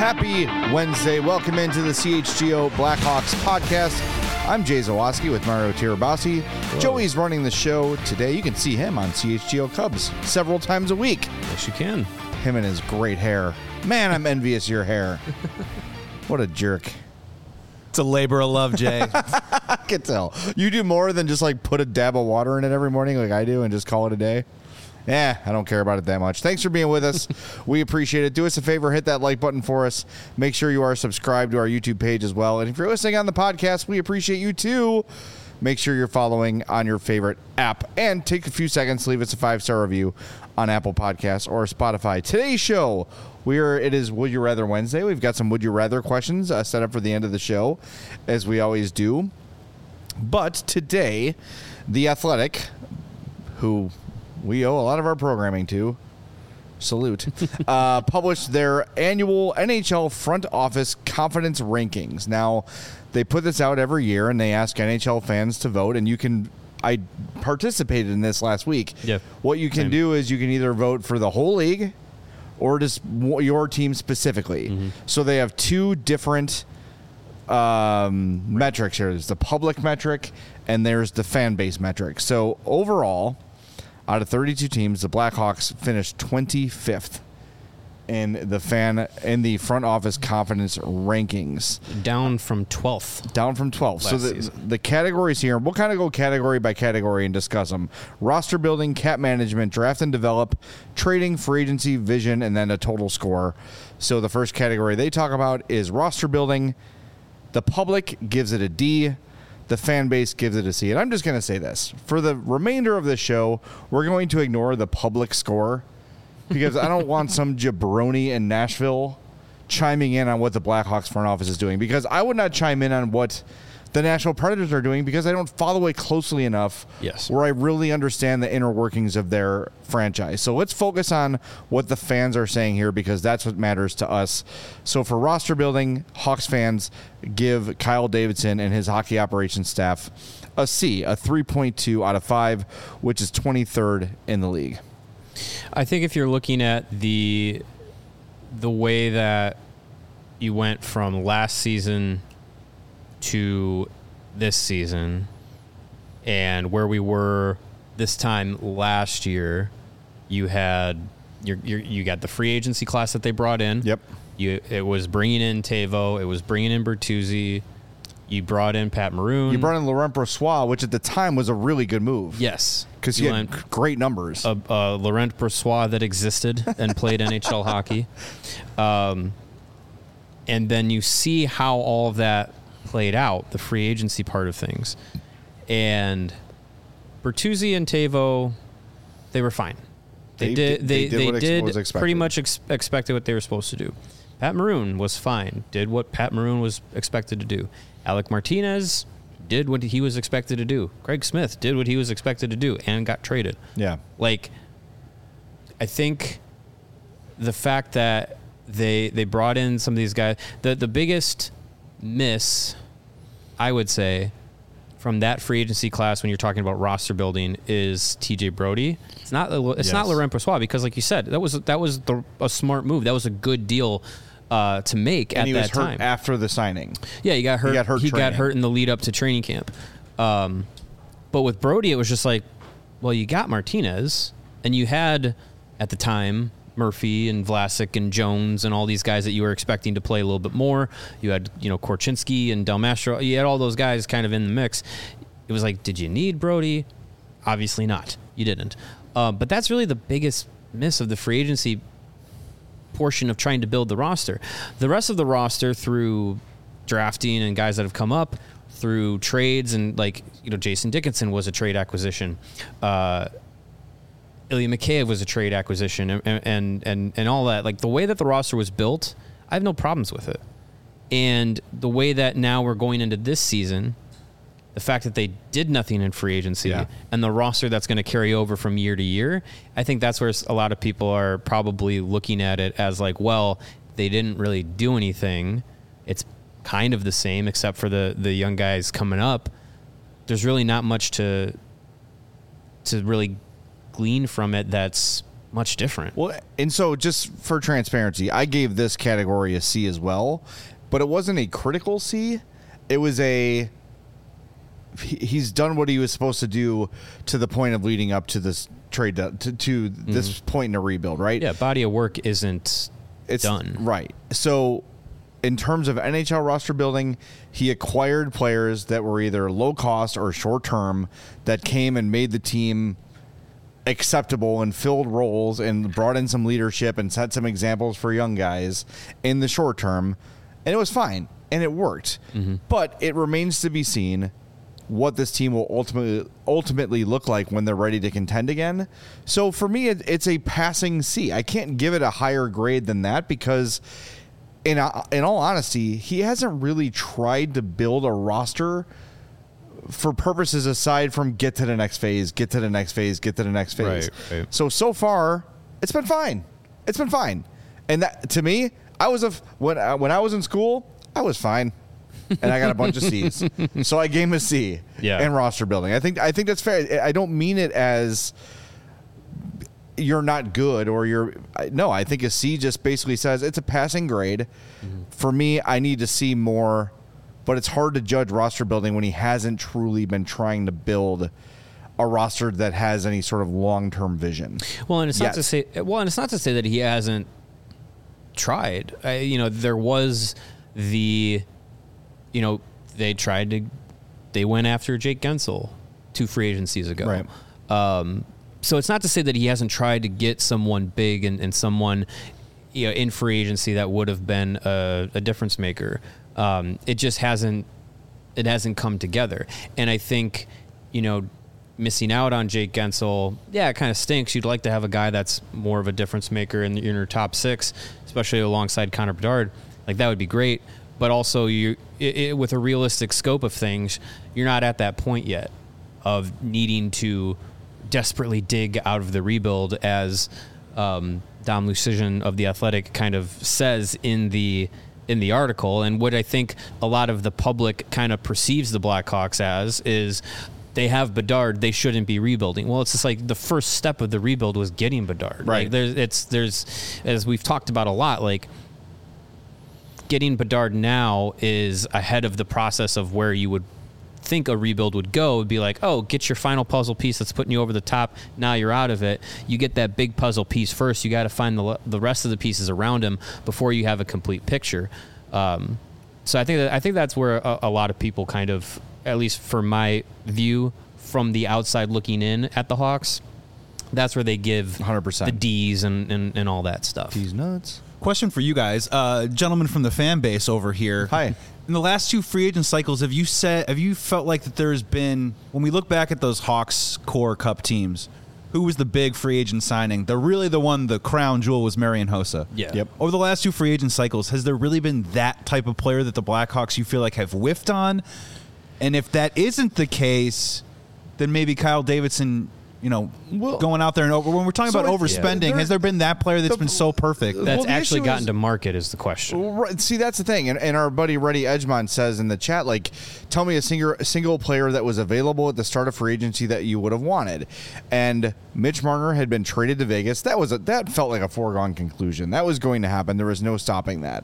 Happy Wednesday. Welcome into the CHGO Blackhawks podcast. I'm Jay Zawoski with Mario Tirabassi. Joey's running the show today. You can see him on CHGO Cubs several times a week. Yes, you can. Him and his great hair. Man, I'm envious of your hair. What a jerk. It's a labor of love, Jay. I can tell. You do more than just like put a dab of water in it every morning like I do and just call it a day. I don't care about it that much. Thanks for being with us. We appreciate it. Do us a favor, hit that like button for us. Make sure you are subscribed to our YouTube page as well. And if you're listening on the podcast, we appreciate you too. Make sure you're following on your favorite app. And take a few seconds to leave us a 5-star review on Apple Podcasts or Spotify. Today's show, it is Would You Rather Wednesday. We've got some Would You Rather questions set up for the end of the show, as we always do. But today, The Athletic, who we owe a lot of our programming to, salute, published their annual NHL front office confidence rankings. Now, they put this out every year, and they ask NHL fans to vote, and I participated in this last week. Yeah. What you can do is you can either vote for the whole league or just your team specifically. Mm-hmm. So they have two different metrics here. There's the public metric, and there's the fan base metric. So overall, out of 32 teams, the Blackhawks finished 25th in the front office confidence rankings. Down from 12th. So the categories here, we'll kind of go category by category and discuss them. Roster building, cap management, draft and develop, trading, free agency, vision, and then a total score. So the first category they talk about is roster building. The public gives it a D. The fan base gives it a C. And I'm just going to say this. For the remainder of the show, we're going to ignore the public score because I don't want some jabroni in Nashville chiming in on what the Blackhawks front office is doing, because I would not chime in on what the Nashville Predators are doing because I don't follow it closely enough where I really understand the inner workings of their franchise. So let's focus on what the fans are saying here, because that's what matters to us. So for roster building, Hawks fans give Kyle Davidson and his hockey operations staff a C, a 3.2 out of 5, which is 23rd in the league. I think if you're looking at the way that you went from last season to this season and where we were this time last year, you had you got the free agency class that they brought in. Yep. It was bringing in Teuvo. It was bringing in Bertuzzi. You brought in Pat Maroon. You brought in Laurent Brossoit, which at the time was a really good move. Yes. Because he had great numbers. Laurent Brossoit that existed and played NHL hockey. And then you see how all of that played out, the free agency part of things. And Bertuzzi and Teuvo, they were fine. They did pretty much expected what they were supposed to do. Pat Maroon was fine, did what Pat Maroon was expected to do. Alec Martinez did what he was expected to do. Craig Smith did what he was expected to do and got traded. Yeah. I think the fact that they brought in some of these guys, the biggest miss, I would say, from that free agency class when you're talking about roster building is TJ Brody. It's not Laurent Brossoit, because like you said, that was a smart move. That was a good deal to make at that time. And he was hurt after the signing. Yeah, he got hurt. He got hurt in the lead up to training camp. But with Brody, it was just like, well, you got Martinez, and you had at the time Murphy and Vlasic and Jones and all these guys that you were expecting to play a little bit more. You had, Korchinski and Del Mastro. You had all those guys kind of in the mix. It was like, did you need Brody? Obviously not. You didn't. But that's really the biggest miss of the free agency portion of trying to build the roster. The rest of the roster, through drafting and guys that have come up, through trades, and Jason Dickinson was a trade acquisition. Ilya Mikheyev was a trade acquisition, and all that. Like, the way that the roster was built, I have no problems with it. And the way that now we're going into this season, the fact that they did nothing in free agency and the roster that's going to carry over from year to year, I think that's where a lot of people are probably looking at it as like, well, they didn't really do anything. It's kind of the same except for the young guys coming up. There's really not much to really glean from it that's much different. Well, and so just for transparency, I gave this category a C as well, but it wasn't a critical C. It was he's done what he was supposed to do to the point of leading up to this trade to this point in a rebuild, right? Yeah, body of work it's done. Right. So in terms of NHL roster building, he acquired players that were either low cost or short term that came and made the team acceptable and filled roles and brought in some leadership and set some examples for young guys in the short term. And it was fine and it worked. But it remains to be seen what this team will ultimately look like when they're ready to contend again. So for me, it's a passing C. I can't give it a higher grade than that because in all honesty, he hasn't really tried to build a roster for purposes aside from get to the next phase. Right. So far, it's been fine. And that, to me, when I was in school, I was fine. And I got a bunch of C's. So I gave him a C in roster building. I think that's fair. I don't mean it as you're not good or no, I think a C just basically says it's a passing grade. For me, I need to see more, but it's hard to judge roster building when he hasn't truly been trying to build a roster that has any sort of long-term vision. Well, and it's not to say that he hasn't tried. There was they went after Jake Gensel 2 free agencies ago. Right. So it's not to say that he hasn't tried to get someone big and someone in free agency that would have been a difference maker. It just hasn't come together. And I think, missing out on Jake Gensel, it kind of stinks. You'd like to have a guy that's more of a difference maker in your top 6, especially alongside Connor Bedard. Like, that would be great. But also, with a realistic scope of things, you're not at that point yet of needing to desperately dig out of the rebuild, as Dom Lucian of The Athletic kind of says in the article. And what I think a lot of the public kind of perceives the Blackhawks as is they have Bedard, they shouldn't be rebuilding. Well, it's just like the first step of the rebuild was getting Bedard. Right. Like there's as we've talked about a lot, like, getting Bedard now is ahead of the process of where you would think a rebuild would go. It would be like, oh, get your final puzzle piece that's putting you over the top. Now you're out of it. You get that big puzzle piece first. You got to find the rest of the pieces around him before you have a complete picture. So I think that's where a lot of people kind of, at least for my view from the outside looking in at the Hawks, that's where they give 100% the D's and all that stuff. D's nuts. Question for you guys, gentlemen from the fan base over here. Hi. In the last 2 free agent cycles, have you felt like that there's been, when we look back at those Hawks core cup teams, who was the big free agent signing? The crown jewel was Marian Hossa. Yeah. Yep. Over the last 2 free agent cycles, has there really been that type of player that the Blackhawks you feel like have whiffed on? And if that isn't the case, then maybe Kyle Davidson, going out there and when we're talking about overspending, has there been that player that's been so perfect? That's actually gotten to market is the question. Right, see, that's the thing. And our buddy Reddy Edgemont says in the chat, like, tell me a single player that was available at the start of free agency that you would have wanted. And Mitch Marner had been traded to Vegas. That felt like a foregone conclusion. That was going to happen. There was no stopping that.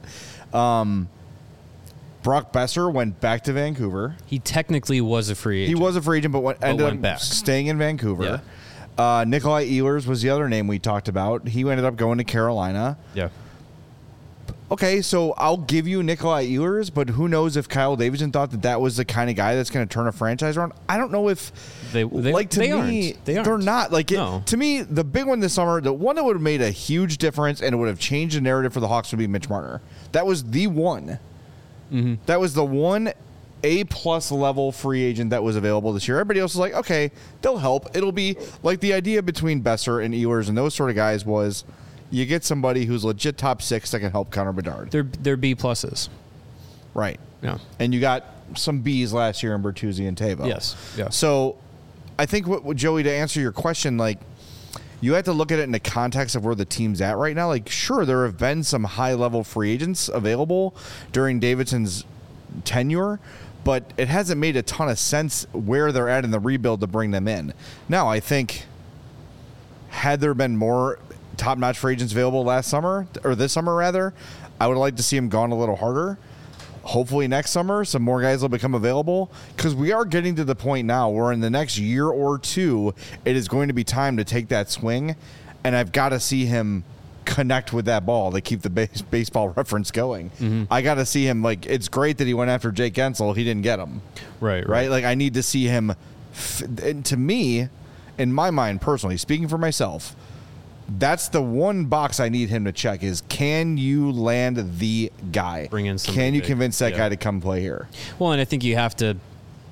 Brock Besser went back to Vancouver. He technically was a free agent. He was a free agent, but ended up back. staying in Vancouver. Yeah. Nikolai Ehlers was the other name we talked about. He ended up going to Carolina. Yeah. Okay, so I'll give you Nikolai Ehlers, but who knows if Kyle Davidson thought that was the kind of guy that's going to turn a franchise around? I don't know if they aren't. They're not. Like, no. To me, the big one this summer, the one that would have made a huge difference and it would have changed the narrative for the Hawks would be Mitch Marner. That was the one. Mm-hmm. That was the one A-plus level free agent that was available this year. Everybody else was like, okay, they'll help. It'll be like the idea between Besser and Ehlers and those sort of guys was you get somebody who's legit top 6 that can help Connor Bedard. They're B-pluses. Right. Yeah. And you got some B's last year in Bertuzzi and Tavo. Yes. Yeah. So I think, Joey, to answer your question, like, you have to look at it in the context of where the team's at right now. Like, sure, there have been some high-level free agents available during Davidson's tenure, but it hasn't made a ton of sense where they're at in the rebuild to bring them in. Now, I think had there been more top-notch free agents available this summer, I would like to see him gone a little harder. Hopefully next summer, some more guys will become available, because we are getting to the point now where in the next year or two, it is going to be time to take that swing, and I've got to see him connect with that ball to keep the baseball reference going. Mm-hmm. I got to see him, like, it's great that he went after Jake Gensel. He didn't get him. Right. Like, I need to see him. And to me, in my mind personally, speaking for myself, that's the one box I need him to check is, can you land the guy? Bring in somebody. Can you convince that guy to come play here? Well, and I think you have to.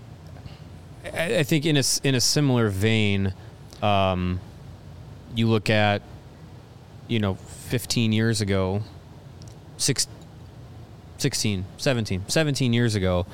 I think in a similar vein, you look at, 15 years ago, 17 years ago,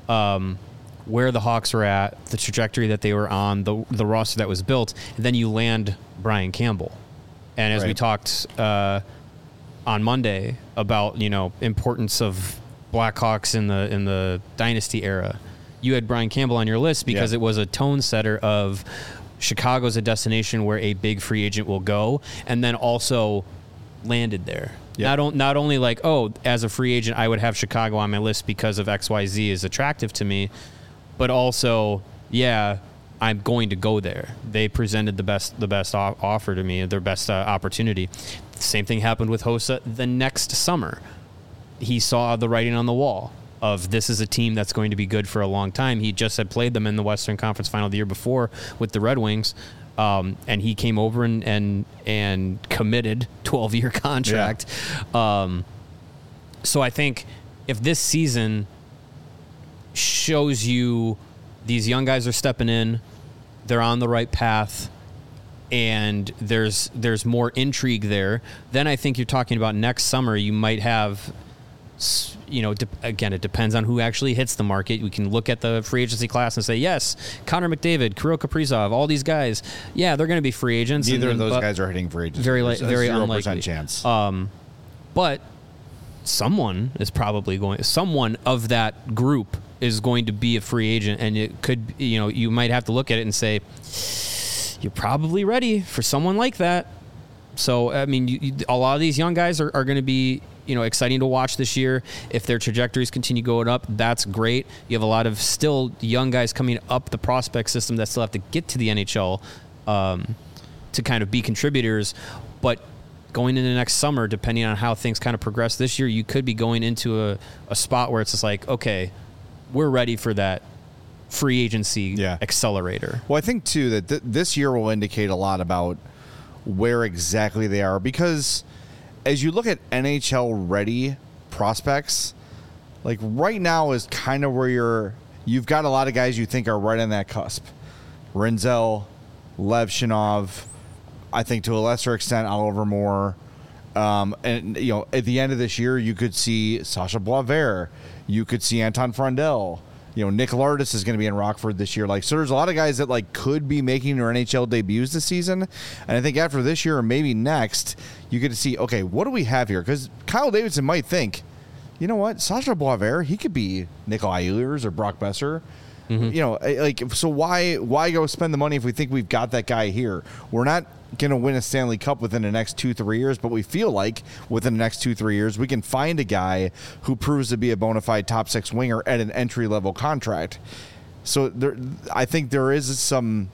where the Hawks were at, the trajectory that they were on, the roster that was built, and then you land Brian Campbell. And as we talked on Monday about, importance of Blackhawks in the dynasty era, you had Brian Campbell on your list because it was a tone setter of Chicago's a destination where a big free agent will go, and then also landed there. Yep. Not only like, as a free agent, I would have Chicago on my list because of XYZ is attractive to me, but also, I'm going to go there. They presented the best offer to me, their best opportunity. The same thing happened with Hossa the next summer. He saw the writing on the wall of this is a team that's going to be good for a long time. He just had played them in the Western Conference Final the year before with the Red Wings, and he came over and committed 12-year contract. Yeah. So I think if this season shows you these young guys are stepping in, they're on the right path, and there's more intrigue there, then I think you're talking about next summer you might have, again, it depends on who actually hits the market. We can look at the free agency class and say, yes, Connor McDavid, Kirill Kaprizov, all these guys, they're going to be free agents. Neither of those guys are hitting free agents. Very unlikely. 0% chance. But someone is probably someone of that group is going to be a free agent, and it could, you might have to look at it and say, you're probably ready for someone like that. So, I mean, a lot of these young guys are going to be, exciting to watch this year. If their trajectories continue going up, that's great. You have a lot of still young guys coming up the prospect system that still have to get to the NHL to kind of be contributors. But going into next summer, depending on how things kind of progress this year, you could be going into a spot where it's just like, okay, we're ready for that free agency accelerator. Well, I think, too, that this year will indicate a lot about where exactly they are, because as you look at NHL-ready prospects, like right now is kind of where you've got a lot of guys you think are right on that cusp. Rinzel, Levshinov, I think to a lesser extent Oliver Moore. And, at the end of this year, you could see Sasha Boisvert. You could see Anton Frondel. Nick Lardis is going to be in Rockford this year. So there's a lot of guys that could be making their NHL debuts this season. And I think after this year or maybe next, you get to see, okay, what do we have here? Because Kyle Davidson might think, you know what, Sasha Boisvert, he could be Nikolai Ehlers or Brock Besser. Mm-hmm. So why go spend the money if we think we've got that guy here? We're not going to win a Stanley Cup within the next 2-3 years, but we feel like within the next 2-3 years we can find a guy who proves to be a bona fide top 6 winger at an entry level contract. So I think there is some.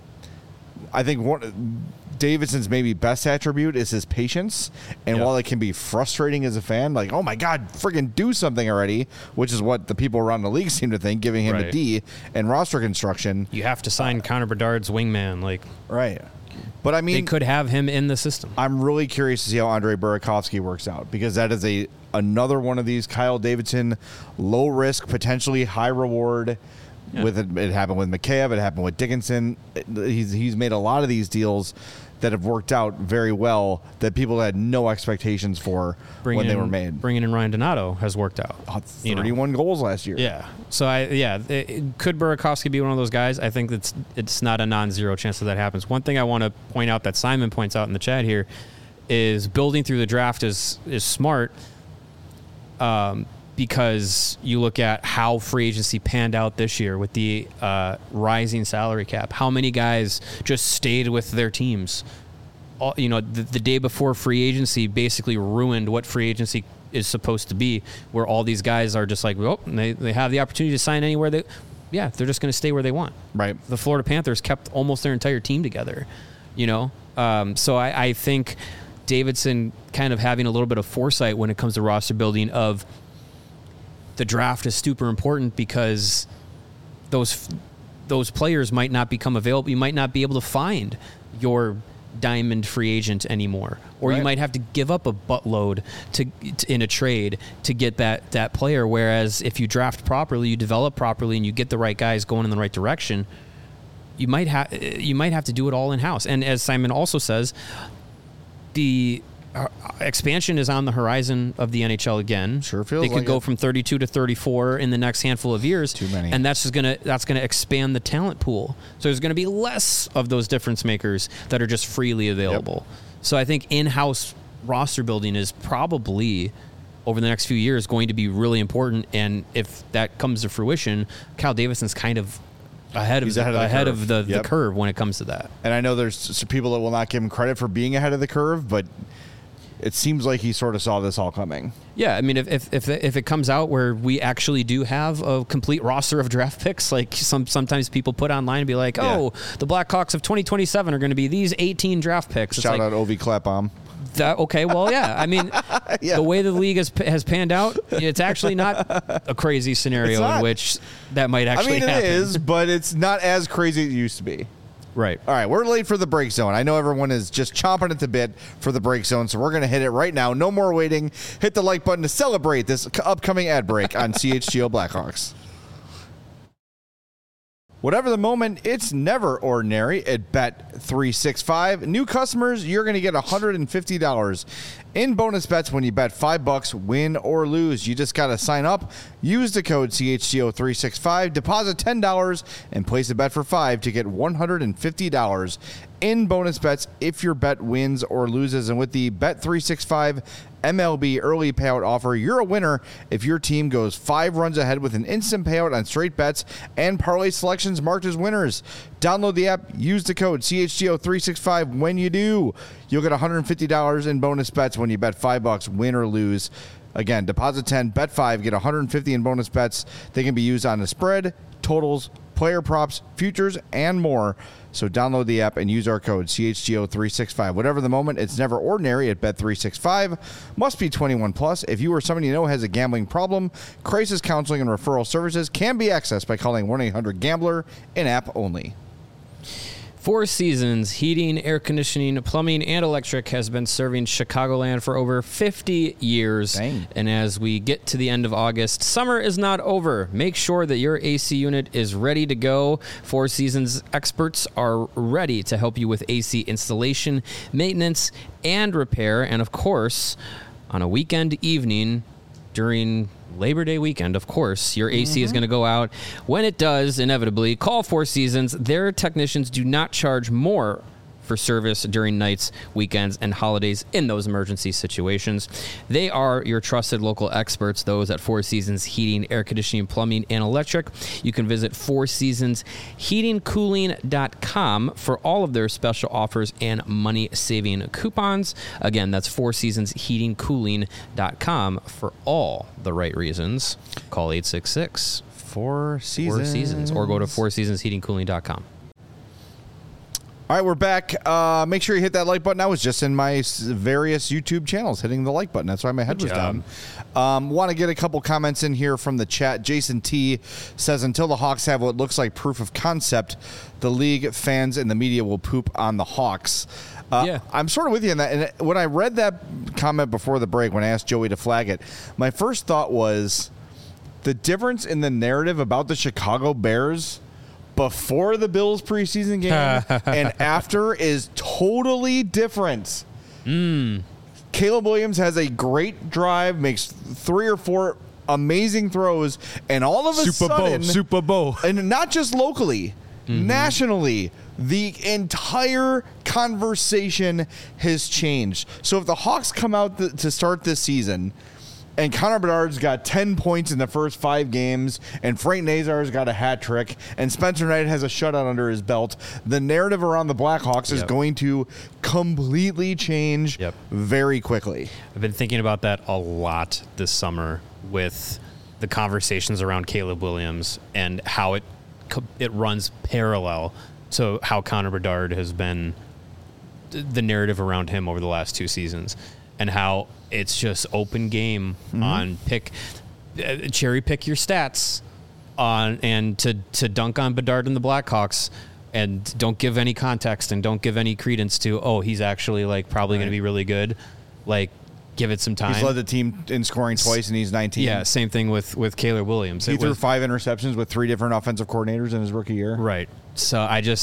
I think Davidson's maybe best attribute is his patience, and while it can be frustrating as a fan, like, oh my God, friggin' do something already, which is what the people around the league seem to think, giving him a D in roster construction. You have to sign Connor Bedard's wingman, right. But I mean, they could have him in the system. I'm really curious to see how Andrei Burakovsky works out, because that is another one of these Kyle Davidson low risk, potentially high reward. Yeah. It happened with Mikheyev, it happened with Dickinson. He's made a lot of these deals that have worked out very well that people had no expectations for when they were made. Bringing in Ryan Donato has worked out. 31 goals last year. Yeah. So could Burakovsky be one of those guys? I think it's not a non-zero chance that happens. One thing I want to point out that Simon points out in the chat here is building through the draft is smart. Because you look at how free agency panned out this year with the rising salary cap. How many guys just stayed with their teams the day before free agency basically ruined what free agency is supposed to be, where all these guys are just like, well, they have the opportunity to sign anywhere they're just going to stay where they want. Right. The Florida Panthers kept almost their entire team together, So I think Davidson kind of having a little bit of foresight when it comes to roster building of the draft is super important, because those players might not become available. You might not be able to find your diamond free agent anymore, or you might have to give up a buttload to in a trade to get that player. Whereas if you draft properly, you develop properly, and you get the right guys going in the right direction, you might have to do it all in house. And as Simon also says, the expansion is on the horizon of the NHL again. Sure feels they could like go it. from 32 to 34 in the next handful of years. Too many. And that's gonna expand the talent pool. So there's gonna be less of those difference makers that are just freely available. Yep. So I think in-house roster building is probably, over the next few years, going to be really important. And if that comes to fruition, Kyle Davidson's kind of ahead of the curve when it comes to that. And I know there's some people that will not give him credit for being ahead of the curve, but it seems like he sort of saw this all coming. Yeah, I mean, if it comes out where we actually do have a complete roster of draft picks, like sometimes people put online and be like, the Blackhawks of 2027 are going to be these 18 draft picks. Shout out Ovi Clapbaum. Okay, well, yeah. I mean, the way the league has panned out, it's actually not a crazy scenario in which that might actually happen. It is, but it's not as crazy as it used to be. Right. All right, we're late for the break zone. I know everyone is just chomping at the bit for the break zone, so we're going to hit it right now. No more waiting. Hit the like button to celebrate this upcoming ad break on CHGO Blackhawks. Whatever the moment, it's never ordinary at Bet365. New customers, you're going to get $150 in bonus bets when you bet $5, win or lose. You just got to sign up, use the code CHGO365, deposit $10, and place a bet for $5 to get $150 in bonus bets if your bet wins or loses. And with the Bet365 MLB early payout offer, you're a winner if your team goes 5 runs ahead with an instant payout on straight bets and parlay selections marked as winners. Download the app, use the code CHGO365 when you do. You'll get $150 in bonus bets when you bet $5, win or lose. Again, deposit 10, bet 5, get $150 in bonus bets. They can be used on the spread, totals, player props, futures, and more. So download the app and use our code CHGO365. Whatever the moment, it's never ordinary at Bet365. Must be 21 plus. If you or someone you know has a gambling problem, crisis counseling and referral services can be accessed by calling 1-800-GAMBLER, in-app only. Four Seasons Heating, Air Conditioning, Plumbing, and Electric has been serving Chicagoland for over 50 years. Dang. And as we get to the end of August, summer is not over. Make sure that your AC unit is ready to go. Four Seasons experts are ready to help you with AC installation, maintenance, and repair. And of course, on a weekend evening during Labor Day weekend, of course, your AC is going to go out. When it does, inevitably, call Four Seasons. Their technicians do not charge more for service during nights, weekends, and holidays in those emergency situations. They are your trusted local experts, those at Four Seasons Heating, Air Conditioning, Plumbing, and Electric. You can visit fourseasonsheatingcooling.com for all of their special offers and money-saving coupons. Again, that's fourseasonsheatingcooling.com for all the right reasons. Call 866 Four Seasons. Or go to fourseasonsheatingcooling.com. All right, we're back. Make sure you hit that like button. I was just in my various YouTube channels hitting the like button. That's why my head was down. Want to get a couple comments in here from the chat. Jason T says, until the Hawks have what looks like proof of concept, the league, fans, and the media will poop on the Hawks. I'm sort of with you on that. And when I read that comment before the break, when I asked Joey to flag it, my first thought was the difference in the narrative about the Chicago Bears before the Bills preseason game and after is totally different. Caleb Williams has a great drive, makes 3 or 4 amazing throws, and all of a sudden, Super Bowl, and not just locally, nationally, the entire conversation has changed. So if the Hawks come out to start this season and Connor Bedard's got 10 points in the first 5 games, and Frank Nazar's got a hat trick, and Spencer Knight has a shutout under his belt, the narrative around the Blackhawks is going to completely change very quickly. I've been thinking about that a lot this summer with the conversations around Caleb Williams and how it runs parallel to how Connor Bedard has been, the narrative around him over the last 2 seasons, and how it's just open game on cherry pick your stats on and to dunk on Bedard and the Blackhawks, and don't give any context and don't give any credence to he's actually like probably going to be really good. Like, give it some time. He's led the team in scoring twice, and he's 19. Yeah, same thing with Caleb Williams. He threw 5 interceptions with 3 different offensive coordinators in his rookie year. Right. So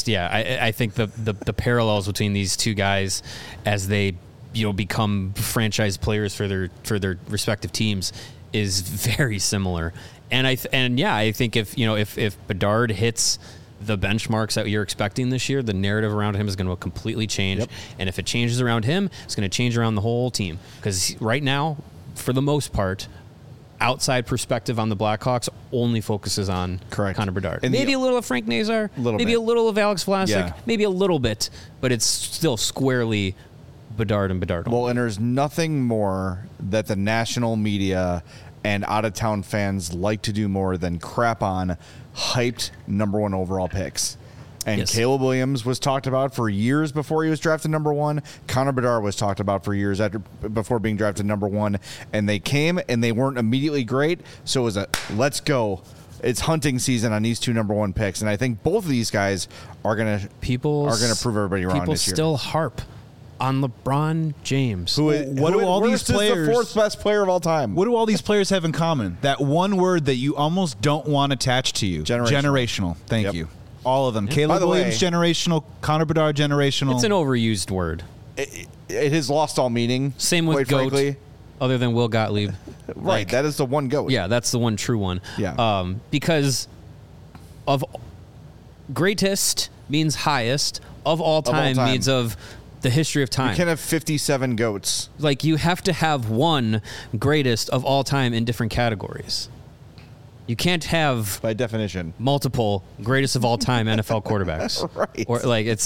I think the parallels between these two guys as they become franchise players for their respective teams is very similar. And I think if Bedard hits the benchmarks that you're expecting this year, the narrative around him is going to completely change. Yep. And if it changes around him, it's going to change around the whole team. Because right now, for the most part, outside perspective on the Blackhawks only focuses on Connor Bedard. And maybe a little of Frank Nazar, maybe a little of Alex Vlasic, maybe a little bit, but it's still squarely Bedard and Bedard. Well, and there's nothing more that the national media and out-of-town fans like to do more than crap on hyped number 1 overall picks. And Caleb Williams was talked about for years before he was drafted number 1. Connor Bedard was talked about for years before being drafted number 1. And they came, and they weren't immediately great. So it was let's go. It's hunting season on these 2 number 1 picks. And I think both of these guys are gonna prove everybody wrong this year. People still harp on LeBron James. What do all these players? The 4th best player of all time. What do all these players have in common? That one word that you almost don't want attached to you. Generational. Thank you. All of them. Yeah. Caleb Williams, generational. Connor Bedard, generational. It's an overused word. It has lost all meaning. Same with GOAT, frankly. Other than Will Gottlieb. Right. That is the one GOAT. Yeah, that's the one true one. Yeah. Because of greatest means highest, of all time means of the history of time. You can't have 57 GOATs. Like, you have to have one greatest of all time in different categories. You can't have, by definition, multiple greatest of all time NFL quarterbacks. Right. Or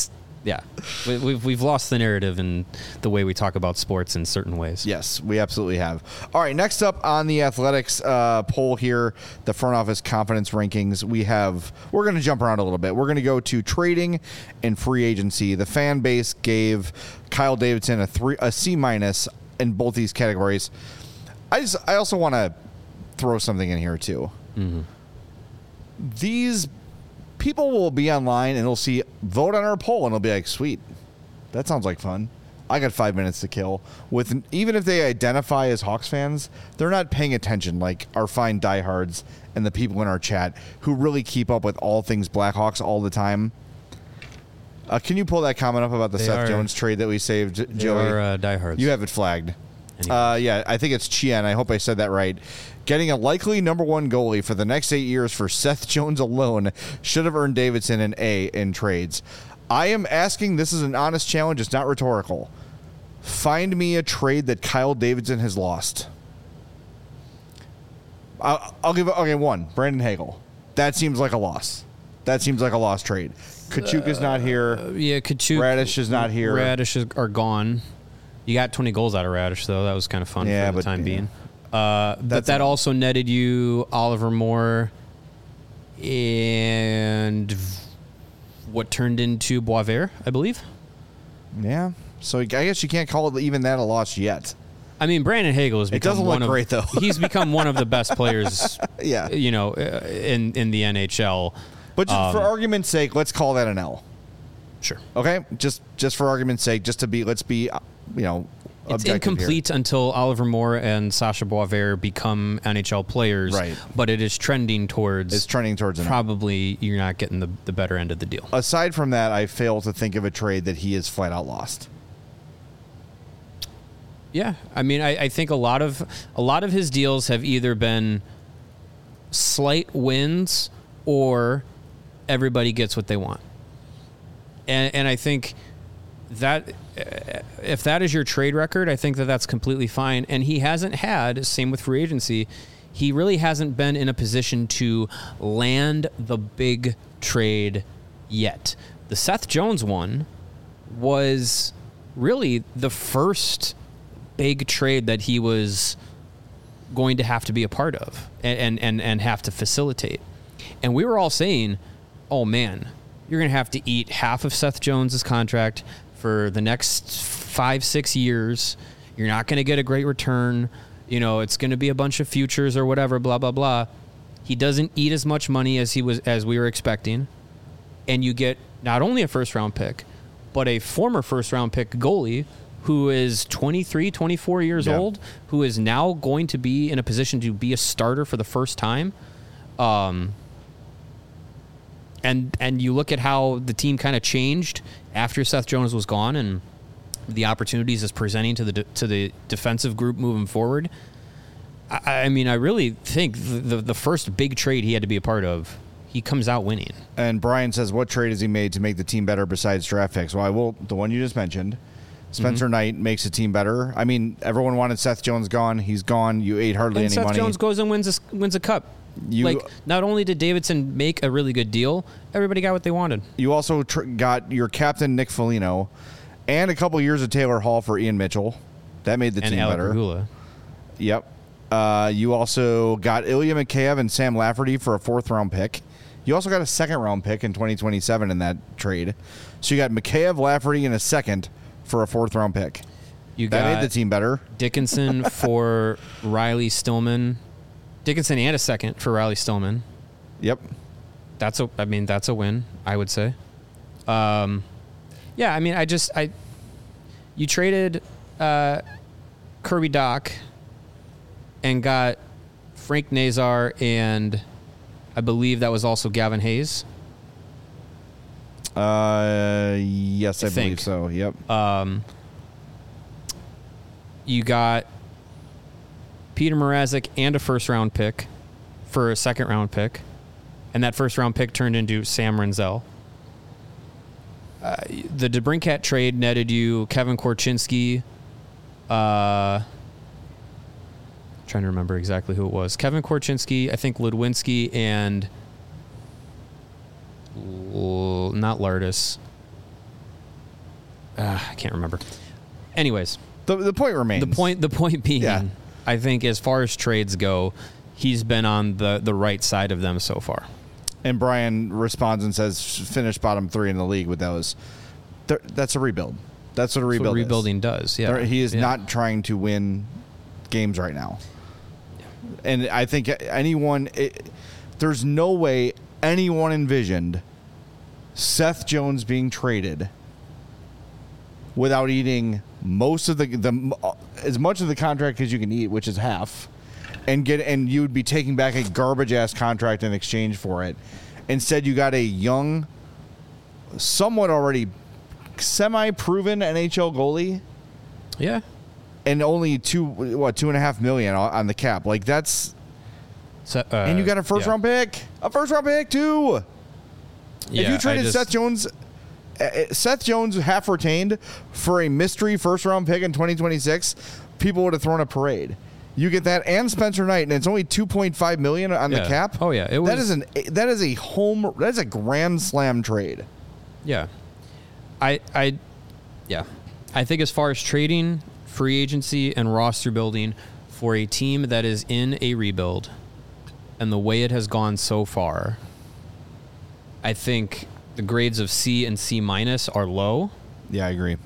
we've lost the narrative in the way we talk about sports in certain ways. Yes, we absolutely have. All right, next up on the Athletics poll here, the front office confidence rankings, we're going to jump around a little bit. We're going to go to trading and free agency. The fan base gave Kyle Davidson a C- in both these categories. I also want to throw something in here too. Mm-hmm. These people will be online and they'll see vote on our poll and they'll be like, sweet, that sounds like fun. I got 5 minutes to kill. Even if they identify as Hawks fans, they're not paying attention like our fine diehards and the people in our chat who really keep up with all things Blackhawks all the time. Can you pull that comment up about the Seth Jones trade that we saved, Joey? They are diehards. You have it flagged. Yeah, I think it's Chien. I hope I said that right. Getting a likely number 1 goalie for the next 8 years for Seth Jones alone should have earned Davidson an A in trades. I am asking, this is an honest challenge. It's not rhetorical. Find me a trade that Kyle Davidson has lost. I'll give one. Brandon Hagel. That seems like a loss. That seems like a lost trade. Kachuk is not here. Kachuk. Radish is not here. Radish are gone. You got 20 goals out of Radish, though. That was kind of fun for the time being. But that also netted you Oliver Moore and what turned into Boisvert, I believe. Yeah. So I guess you can't call it even that a loss yet. I mean, Brandon Hagel has become great, though. He's become one of the best players, in the NHL. But just for argument's sake, let's call that an L. Sure. Okay? Just for argument's sake, let's be it's incomplete here until Oliver Moore and Sasha Boisvert become NHL players. Right. But it is trending towards. It's trending towards probably you're not getting the better end of the deal. Aside from that, I fail to think of a trade that he is flat out lost. Yeah, I mean, I think a lot of his deals have either been slight wins or everybody gets what they want. And I think that if that is your trade record, I think that that's completely fine. And he hasn't had, same with free agency, he really hasn't been in a position to land the big trade yet. The Seth Jones one was really the first big trade that he was going to have to be a part of and have to facilitate. And we were all saying, oh man, you're going to have to eat half of Seth Jones's contract for the next 5-6 years. You're not going to get a great return. You know, it's going to be a bunch of futures or whatever, blah, blah, blah. He doesn't eat as much money as we were expecting. And you get not only a first round pick, but a former first round pick goalie who is 23, 24 years old, who is now going to be in a position to be a starter for the first time. And you look at how the team kind of changed after Seth Jones was gone and the opportunities it's presenting to the defensive group moving forward. I mean, I really think the first big trade he had to be a part of, he comes out winning. And Brian says, what trade has he made to make the team better besides draft picks? Well, the one you just mentioned. Spencer Knight makes the team better. I mean, everyone wanted Seth Jones gone. He's gone. You ate hardly any money. Seth Jones goes and wins a cup. Not only did Davidson make a really good deal, everybody got what they wanted. You also got your captain, Nick Foligno, and a couple years of Taylor Hall for Ian Mitchell. That made the team better. Regula. Yep. You also got Ilya Mikheyev and Sam Lafferty for a 4th-round pick. You also got a 2nd-round pick in 2027 in that trade. So you got Mikheyev, Lafferty, and a 2nd for a 4th-round pick. That made the team better. Dickinson for Riley Stillman. Dickinson and a 2nd for Riley Stillman. Yep. That's a win, I would say. Yeah, I mean, you traded Kirby Dach and got Frank Nazar, and I believe that was also Gavin Hayes. Yes, I believe so. Yep. You got Peter Mrazek and a 1st-round pick for a 2nd-round pick, and that 1st-round pick turned into Sam Renzel. The DeBrincat trade netted you Kevin Korchinski. Trying to remember exactly who it was. Kevin Korchinski, I think Ludwinski, and not Lardis. I can't remember. Anyways, the point remains. The point being, I think as far as trades go, he's been on the right side of them so far. And Brian responds and says, "Finish bottom 3 in the league with those." That's a rebuild. That's what a rebuild rebuilding does. Yeah, he is not trying to win games right now. And I think there's no way anyone envisioned Seth Jones being traded without eating most of as much of the contract as you can eat, which is half, and you would be taking back a garbage ass contract in exchange for it. Instead, you got a young, somewhat already semi-proven NHL goalie. Yeah. And only $2.5 million on the cap. Like that's, and you got a first-round pick, too. Yeah, if you traded Seth Jones half retained for a mystery first-round pick in 2026, people would have thrown a parade. You get that and Spencer Knight, and it's only $2.5 million on the cap. Oh yeah, that is a grand slam trade. Yeah, I think as far as trading, free agency, and roster building for a team that is in a rebuild and the way it has gone so far, I think the grades of C and C- are low. Yeah, I agree.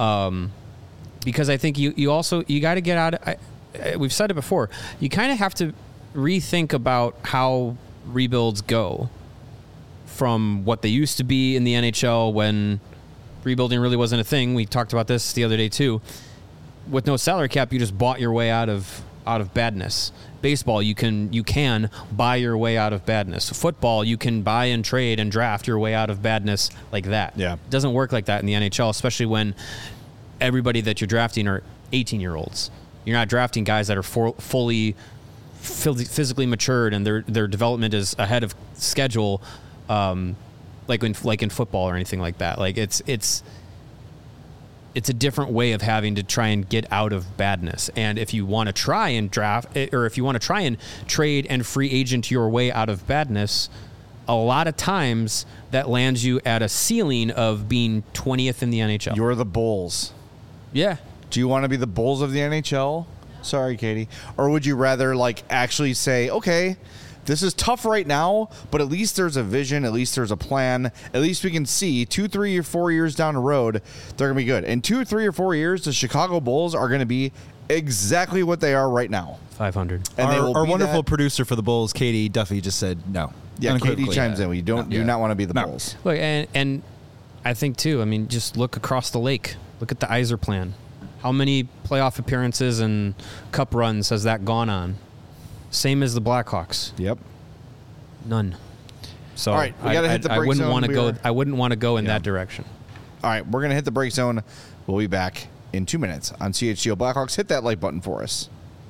Because I think you got to get out of, we've said it before, you kind of have to rethink about how rebuilds go from what they used to be in the NHL when rebuilding really wasn't a thing. We talked about this the other day too. With no salary cap, you just bought your way out of badness. Baseball, you can buy your way out of badness. Football, you can buy and trade and draft your way out of badness like that. Yeah. It doesn't work like that in the NHL, especially when everybody that you're drafting are 18-year-olds. You're not drafting guys that are fully physically matured and their development is ahead of schedule, like in football or anything like that. Like it's it's a different way of having to try and get out of badness. And if you want to try and draft, or if you want to try and trade and free agent your way out of badness, a lot of times that lands you at a ceiling of being 20th in the NHL. You're the Bulls. Yeah. Do you want to be the Bulls of the NHL? Sorry, Katie. Or would you rather like actually say, okay, this is tough right now, but at least there's a vision, at least there's a plan, at least we can see 2, 3, or 4 years down the road, they're going to be good. In 2, 3, or 4 years, the Chicago Bulls are going to be exactly what they are right now. 500. And our wonderful producer for the Bulls, Katie Duffy, just said no. Yeah, Katie chimes in. You do not want to be the Bulls. Look, and I think, too, I mean, just look across the lake. Look at the Yzer plan. How many playoff appearances and cup runs has that gone on? Same as the Blackhawks. Yep. None. So all right, we got to hit the break zone. I wouldn't want to go in that direction. All right, we're going to hit the break zone. We'll be back in 2 minutes on CHGO Blackhawks. Hit that like button for us.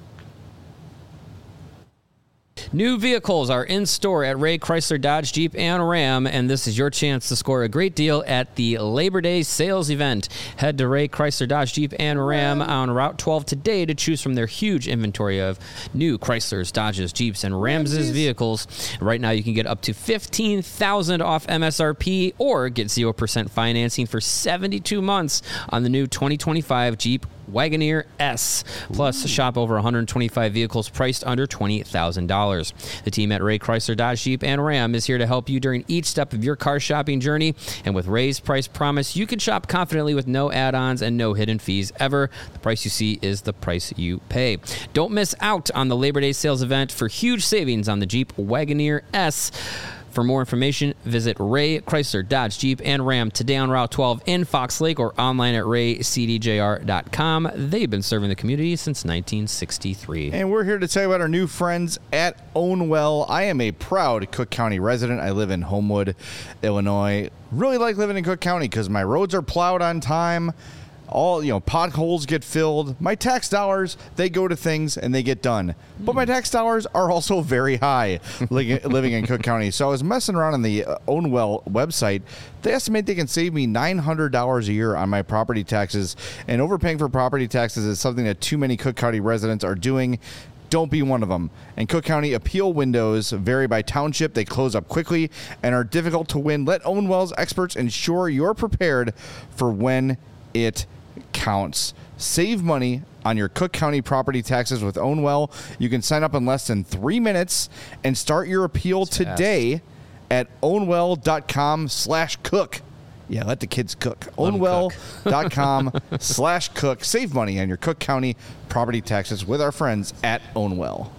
New vehicles are in store at Ray Chrysler Dodge Jeep and Ram, and this is your chance to score a great deal at the Labor Day sales event. Head to Ray Chrysler Dodge Jeep and Ram on Route 12 today to choose from their huge inventory of new Chryslers, Dodges, Jeeps, and Rams vehicles. Right now, you can get up to $15,000 off MSRP or get 0% financing for 72 months on the new 2025 Jeep Wagoneer S. Plus, shop over 125 vehicles priced under $20,000. The team at Ray Chrysler Dodge Jeep and Ram is here to help you during each step of your car shopping journey. And with Ray's price promise, you can shop confidently with no add-ons and no hidden fees ever. The price you see is the price you pay. Don't miss out on the Labor Day sales event for huge savings on the Jeep Wagoneer S. For more information, visit Ray Chrysler Dodge Jeep and Ram today on Route 12 in Fox Lake or online at raycdjr.com. They've been serving the community since 1963. And we're here to tell you about our new friends at Own Well. I am a proud Cook County resident. I live in Homewood, Illinois. Really like living in Cook County because my roads are plowed on time. All, potholes get filled. My tax dollars, they go to things and they get done. But my tax dollars are also very high living in Cook County. So I was messing around on the Own Well website. They estimate they can save me $900 a year on my property taxes. And overpaying for property taxes is something that too many Cook County residents are doing. Don't be one of them. And Cook County appeal windows vary by township. They close up quickly and are difficult to win. Let Own Well's experts ensure you're prepared for when it counts. Save money on your Cook County property taxes with Own Well. You can sign up in less than 3 minutes and start your appeal today at ownwell.com/cook. Yeah, let the kids cook. Ownwell.com/cook. Save money on your Cook County property taxes with our friends at Own Well.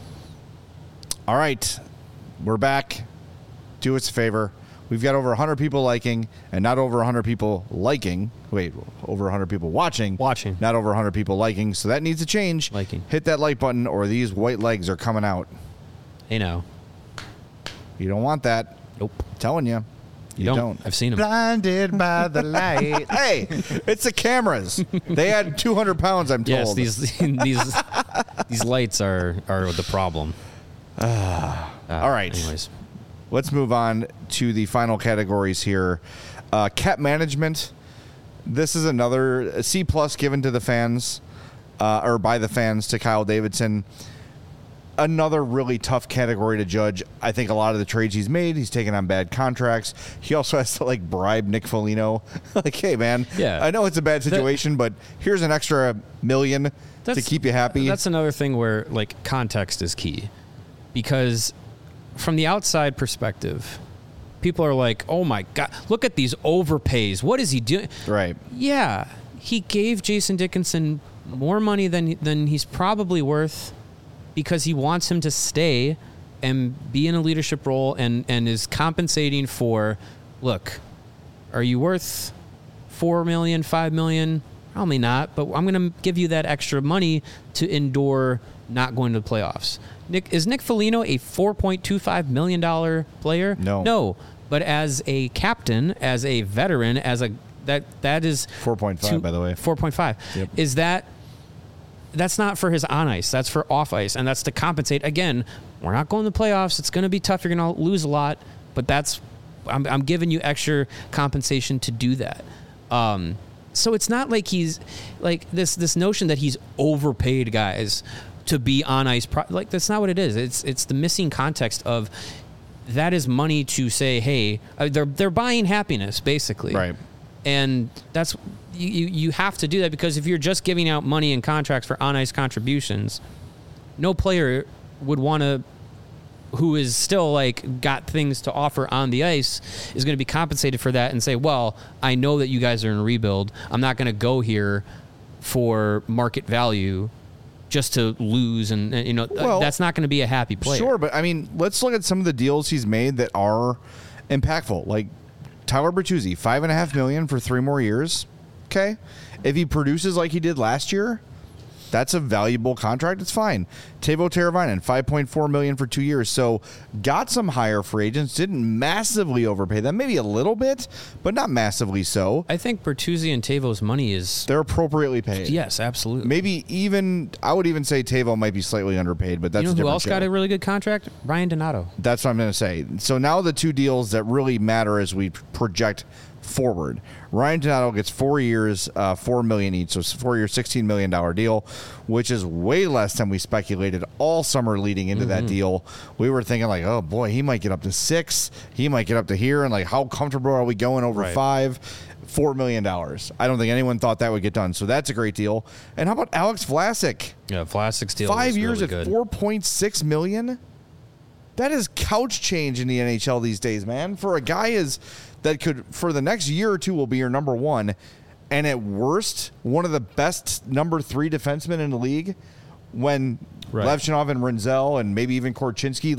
All right, we're back. Do us a favor. We've got over 100 people liking and not over 100 people liking. Wait, over 100 people watching. Not over 100 people liking. So that needs to change. Liking. Hit that like button or these white legs are coming out. Hey, no. You don't want that. Nope. I'm telling you. You don't. I've seen them. Blinded by the light. Hey, it's the cameras. They had 200 pounds, I'm told. Yes, these lights are the problem. All right. Anyways. Let's move on to the final categories here. Cap management. This is another C+ given to the fans, or by the fans to Kyle Davidson. Another really tough category to judge. I think a lot of the trades he's made, he's taken on bad contracts. He also has to bribe Nick Foligno. Hey man, I know it's a bad situation, but here's an extra $1 million to keep you happy. That's another thing where context is key, because from the outside perspective, people are like, oh my God, look at these overpays. What is he doing? Right. Yeah. He gave Jason Dickinson more money than he's probably worth because he wants him to stay and be in a leadership role and is compensating for, look, are you worth $4 million, $5 million? Probably not, but I'm going to give you that extra money to endure not going to the playoffs. Is Nick Foligno a $4.25 million player? No. But as a captain, as a veteran, that is 4.5 by the way. 4.5. Yep. Is that's not for his on ice. That's for off ice, and that's to compensate. Again, we're not going to the playoffs. It's going to be tough. You're going to lose a lot, but I'm giving you extra compensation to do that. So it's not like he's like this notion that he's overpaid guys to be on ice. Like that's not what it is. It's the missing context of that is money to say, hey, they're buying happiness basically, right? And that's you have to do that, because if you're just giving out money and contracts for on ice contributions, no player would want to, who is still like got things to offer on the ice, is going to be compensated for that and say, well, I know that you guys are in a rebuild. I'm not going to go here for market value just to lose. And that's not going to be a happy player. Sure. But I mean, let's look at some of the deals he's made that are impactful. Like Tyler Bertuzzi, $5.5 million for 3 more years. Okay. If he produces like he did last year, that's a valuable contract. It's fine. Teuvo Teravainen, $5.4 million for 2 years. So got some higher free agents. Didn't massively overpay them. Maybe a little bit, but not massively so. I think Bertuzzi and Teuvo's money they're appropriately paid. Yes, absolutely. Maybe even, I would even say Teuvo might be slightly underpaid, but that's who else got a really good contract? Ryan Donato. That's what I'm going to say. So now the 2 deals that really matter as we project forward. Ryan Donato gets 4 years, $4 million each, so it's a 4 year, $16 million deal, which is way less than we speculated all summer leading into that deal. We were thinking like, oh boy, he might get up to 6, he might get up to here, and like, how comfortable are we going over 5? $4 million. I don't think anyone thought that would get done, so that's a great deal. And how about Alex Vlasic? Yeah, Vlasic's deal 5 years really at $4.6 million. That is couch change in the NHL these days, man. For a guy that could, for the next year or two, will be your number 1, and at worst, one of the best number 3 defensemen in the league, when Levchinov and Rinzel and maybe even Korchinski,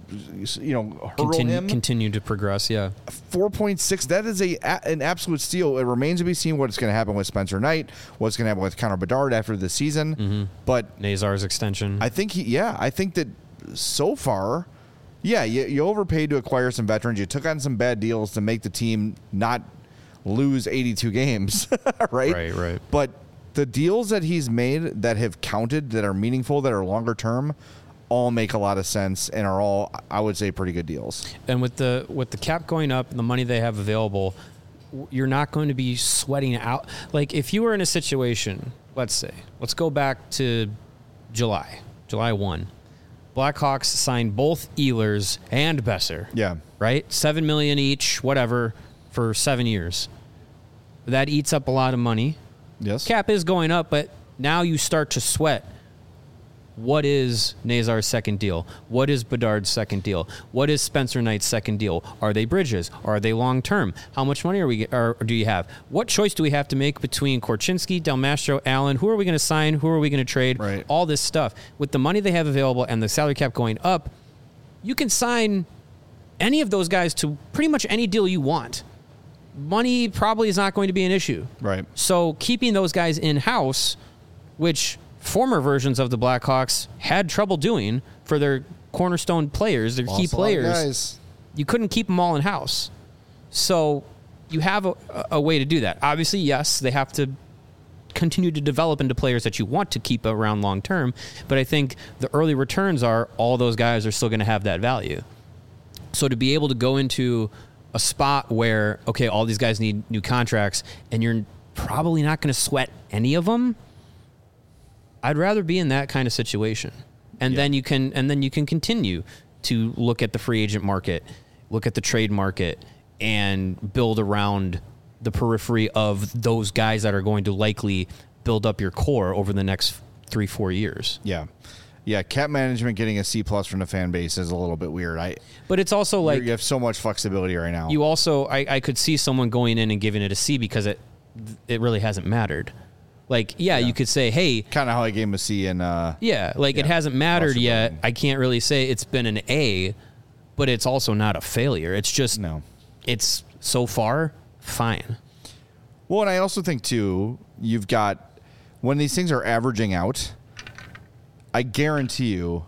hurdle him. Continue to progress, yeah. 4.6, that is an absolute steal. It remains to be seen what's going to happen with Spencer Knight, what's going to happen with Connor Bedard after the season. But Nazar's extension. I think that so far, yeah, you overpaid to acquire some veterans. You took on some bad deals to make the team not lose 82 games, right? Right. But the deals that he's made that have counted, that are meaningful, that are longer term, all make a lot of sense and are all, I would say, pretty good deals. And with the cap going up and the money they have available, you're not going to be sweating out. Like if you were in a situation, let's go back to July 1. Blackhawks signed both Ehlers and Besser. Yeah. Right? $7 million each, whatever, for 7 years. That eats up a lot of money. Yes. Cap is going up, but now you start to sweat. What is Nazar's second deal? What is Bedard's second deal? What is Spencer Knight's second deal? Are they bridges? Are they long term? How much money do you have? What choice do we have to make between Korchinski, Del Mastro, Allen? Who are we going to sign? Who are we going to trade? Right. All this stuff. With the money they have available and the salary cap going up, you can sign any of those guys to pretty much any deal you want. Money probably is not going to be an issue. Right. So keeping those guys in-house, which former versions of the Blackhawks had trouble doing for their cornerstone players, their key players, you couldn't keep them all in-house. So you have a way to do that. Obviously, yes, they have to continue to develop into players that you want to keep around long-term, but I think the early returns are all those guys are still going to have that value. So to be able to go into a spot where, okay, all these guys need new contracts and you're probably not going to sweat any of them, I'd rather be in that kind of situation. And then you can continue to look at the free agent market, look at the trade market, and build around the periphery of those guys that are going to likely build up your core over the next 3-4 years. Yeah, cap management getting a C+ from the fan base is a little bit weird. But it's also like you have so much flexibility right now. You also, I could see someone going in and giving it a C because it really hasn't mattered. Like, you could say, hey, kind of how I gave him a C in. It hasn't mattered yet. I can't really say it's been an A, but it's also not a failure. It's just it's so far fine. Well, and I also think too, you've got when these things are averaging out, I guarantee you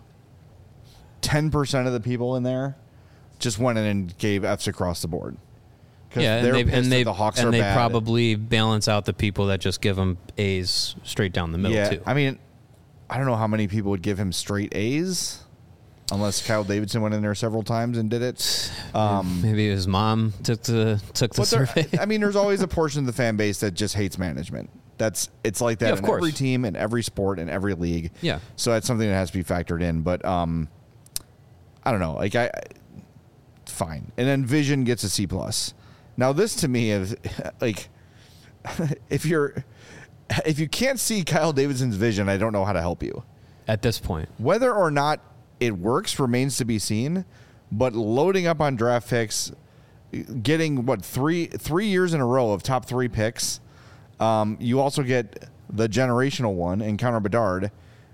10% of the people in there just went in and gave Fs across the board. Yeah, and they probably balance out the people that just give him A's straight down the middle, too. I mean, I don't know how many people would give him straight A's. unless Kyle Davidson went in there several times and did it. Maybe his mom took the survey. I mean, there's always a portion of the fan base that just hates management. It's like that in every team, in every sport, in every league. Yeah. So that's something that has to be factored in. But I don't know. Like fine. And then Vision gets a C+. Now this to me is like if you can't see Kyle Davidson's vision, I don't know how to help you. At this point. Whether or not it works remains to be seen, but loading up on draft picks, getting three years in a row of top 3 picks, you also get the generational one in Connor Bedard.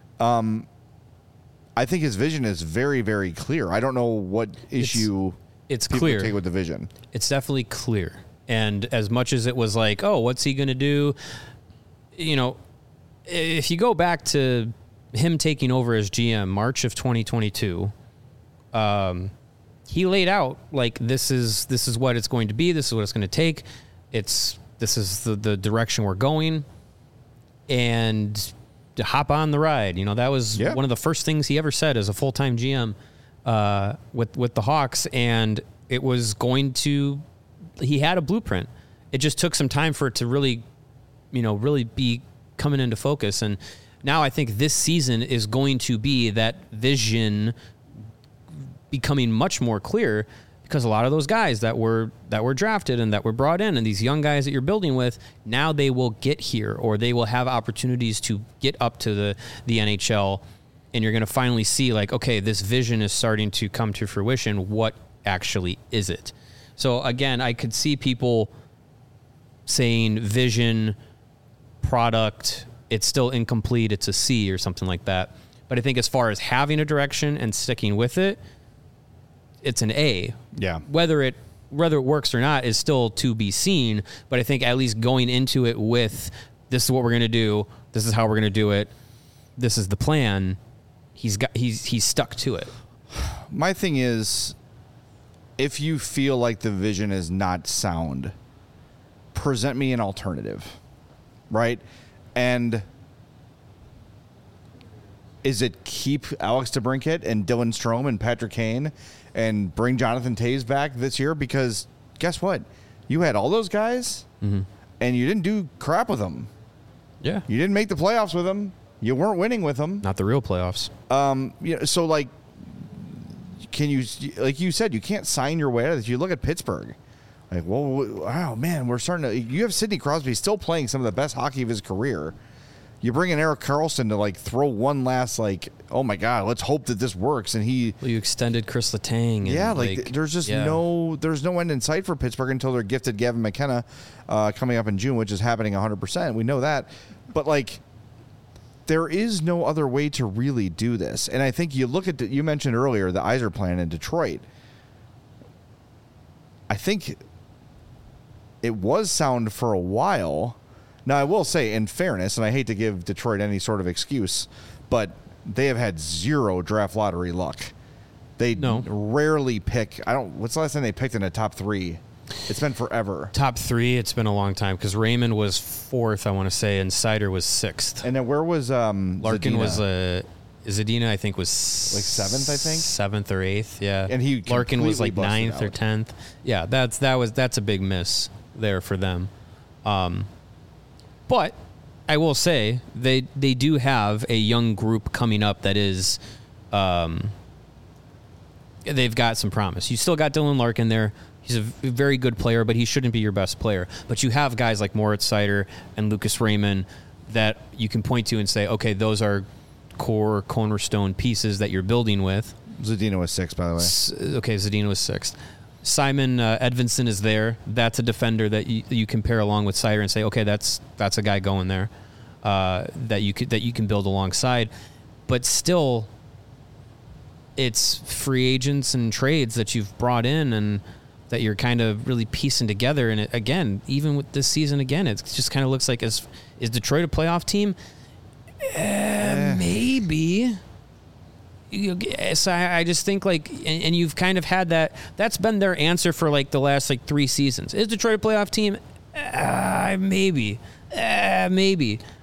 I think his vision is very, very clear. I don't know what issue it's people clear take with the vision. It's definitely clear. And as much as it was like, oh, what's he going to do? You know, if you go back to him taking over as GM March of 2022, he laid out like this is what it's going to be. This is what it's going to take. This is the direction we're going, and to hop on the ride. You know, that was one of the first things he ever said as a full-time GM with the Hawks, and it was going to. He had a blueprint. It just took some time for it to really be coming into focus. And now I think this season is going to be that vision becoming much more clear, because a lot of those guys that were drafted and that were brought in, and these young guys that you're building with, now they will get here, or they will have opportunities to get up to the NHL, and you're going to finally see like, okay, this vision is starting to come to fruition. What actually is it? So again, I could see people saying vision, product, it's still incomplete, it's a C or something like that. But I think as far as having a direction and sticking with it, it's an A. Yeah. Whether it works or not is still to be seen, but I think at least going into it with, this is what we're going to do, this is how we're going to do it, this is the plan, he's stuck to it. My thing is, if you feel like the vision is not sound, present me an alternative, right? And is it keep Alex DeBrincat and Dylan Strome and Patrick Kane and bring Jonathan Toews back this year? Because guess what? You had all those guys, and you didn't do crap with them. Yeah. You didn't make the playoffs with them. You weren't winning with them. Not the real playoffs. So like, can you, like you said, you can't sign your way out of this. You look at Pittsburgh. Like, well, wow, man, we're starting to. You have Sidney Crosby still playing some of the best hockey of his career. You bring in Erik Karlsson to like throw one last like, oh my God, let's hope that this works. And you extended Chris Letang. And there's just no end in sight for Pittsburgh until they're gifted Gavin McKenna coming up in June, which is happening 100%. We know that, but like, there is no other way to really do this. And I think you look at you mentioned earlier the Yzer plan in Detroit. I think it was sound for a while. Now, I will say, in fairness, and I hate to give Detroit any sort of excuse, but they have had zero draft lottery luck. They rarely pick. What's the last time they picked in a top 3? It's been forever. Top 3, it's been a long time, because Raymond was 4th, I want to say, and Seider was 6th. And then where was Larkin Zadina? Zadina, I think, was like 7th, I think? 7th or 8th, yeah. And Larkin was like 9th or 10th. Yeah, that's a big miss there for them. But I will say they do have a young group coming up that is they've got some promise. You still got Dylan Larkin there. He's a very good player, but he shouldn't be your best player. But you have guys like Moritz Seider and Lucas Raymond that you can point to and say, okay, those are core cornerstone pieces that you're building with. Zadina was 6th, by the way. Okay, Zadina was 6th. Simon Edvinsson is there. That's a defender that you can pair along with Seider and say, okay, that's a guy going there that you can build alongside. But still, it's free agents and trades that you've brought in and that you're kind of really piecing together. And again, even with this season, it just kind of looks like is Detroit a playoff team? Maybe. So I just think like, and you've kind of had that's been their answer for like the last like 3 seasons. Is Detroit a playoff team? Maybe.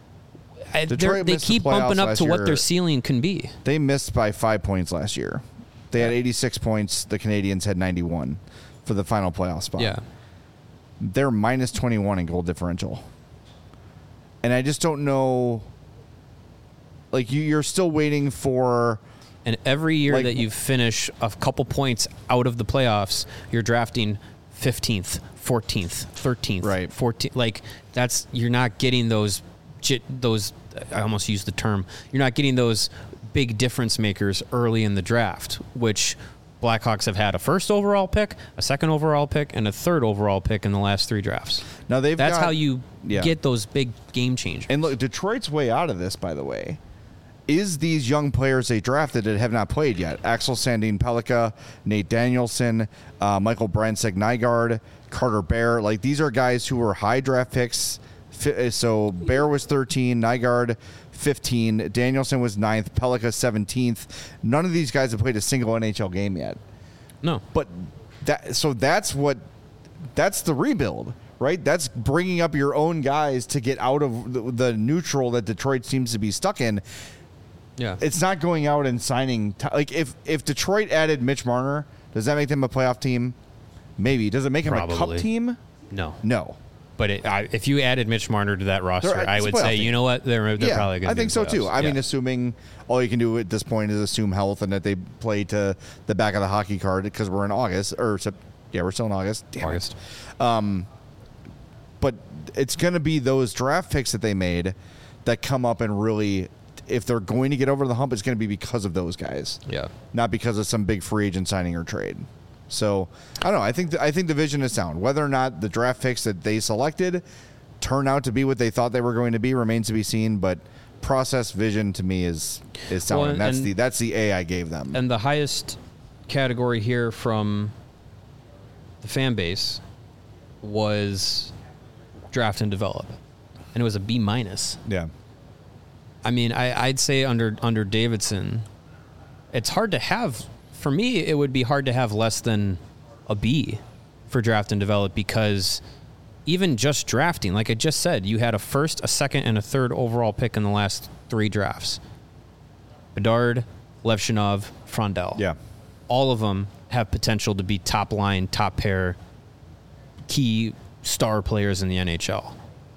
They keep bumping up to what their ceiling can be. They missed by 5 points last year. They had 86 points. The Canadians had 91 for the final playoff spot. Yeah. They're minus 21 in goal differential. And I just don't know. Like, you're still waiting for. And every year that you finish a couple points out of the playoffs, you're drafting 15th, 14th, 13th, right. 14th. Like, you're not getting those, I almost used the term, you're not getting those big difference makers early in the draft, which Blackhawks have had a first overall pick, a second overall pick, and a third overall pick in the last 3 drafts. Now that's how you get those big game changers. And look, Detroit's way out of this, by the way, is these young players they drafted that have not played yet. Axel Sandin Pellikka, Nate Danielson, Michael Brandsteg-Nygaard, Carter Bear. Like, these are guys who were high draft picks. So Bear was 13, Nygaard 15, Danielson was 9th, Pellikka 17th. None of these guys have played a single NHL game yet. No. But that's the rebuild, right? That's bringing up your own guys to get out of the neutral that Detroit seems to be stuck in. Yeah. It's not going out and signing. Like, if Detroit added Mitch Marner, does that make them a playoff team? Maybe. Does it make them a cup team? No. No. But if you added Mitch Marner to that roster, I would say, you know what? They're probably going to. I think so too. I mean, assuming all you can do at this point is assume health and that they play to the back of the hockey card because we're in August we're still in August. Damn August. But it's going to be those draft picks that they made that come up and really, if they're going to get over the hump, it's going to be because of those guys. Yeah. Not because of some big free agent signing or trade. So, I don't know. I think the vision is sound. Whether or not the draft picks that they selected turn out to be what they thought they were going to be remains to be seen, but process vision to me is sound. Well, that's the A I gave them. And the highest category here from the fan base was draft and develop. And it was a B-. Yeah. I mean, I'd say under Davidson, it's hard to have. For me, it would be hard to have less than a B for draft and develop because even just drafting, like I just said, you had a first, a second, and a third overall pick in the last 3 drafts. Bedard, Levshunov, Frondell. Yeah. All of them have potential to be top line, top pair, key star players in the NHL.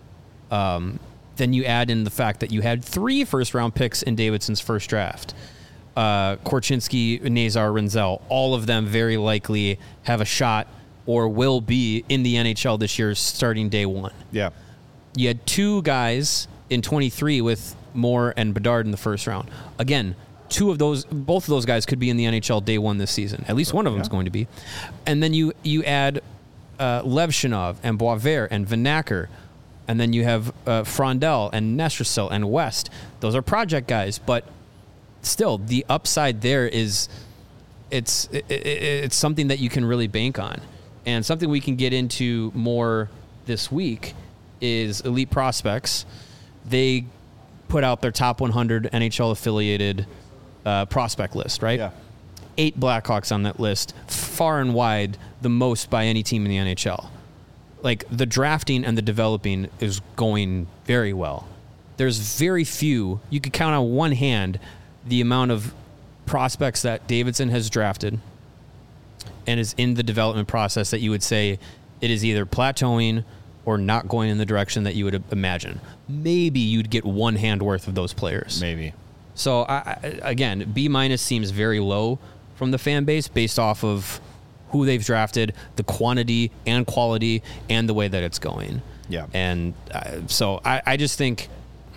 Then you add in the fact that you had 3 first-round picks in Davidson's first draft. Korchinski, Nazar, Renzel, all of them very likely have a shot or will be in the NHL this year starting day 1. Yeah. You had 2 guys in 23 with Moore and Bedard in the first round. Again, both of those guys could be in the NHL day 1 this season. At least one of them is going to be. And then you add Levshunov and Boisvert and Vanacker, and then you have Frondell and Nestrasil and West. Those are project guys, but still, the upside there is it's something that you can really bank on. And something we can get into more this week is Elite Prospects. They put out their top 100 NHL-affiliated prospect list, right? Yeah. 8 Blackhawks on that list, far and wide the most by any team in the NHL. Like, the drafting and the developing is going very well. There's very few, you could count on one hand the amount of prospects that Davidson has drafted and is in the development process that you would say it is either plateauing or not going in the direction that you would imagine. Maybe you'd get one hand worth of those players. Maybe. So, again, B- seems very low from the fan base based off of who they've drafted, the quantity and quality, and the way that it's going. Yeah. And so I just think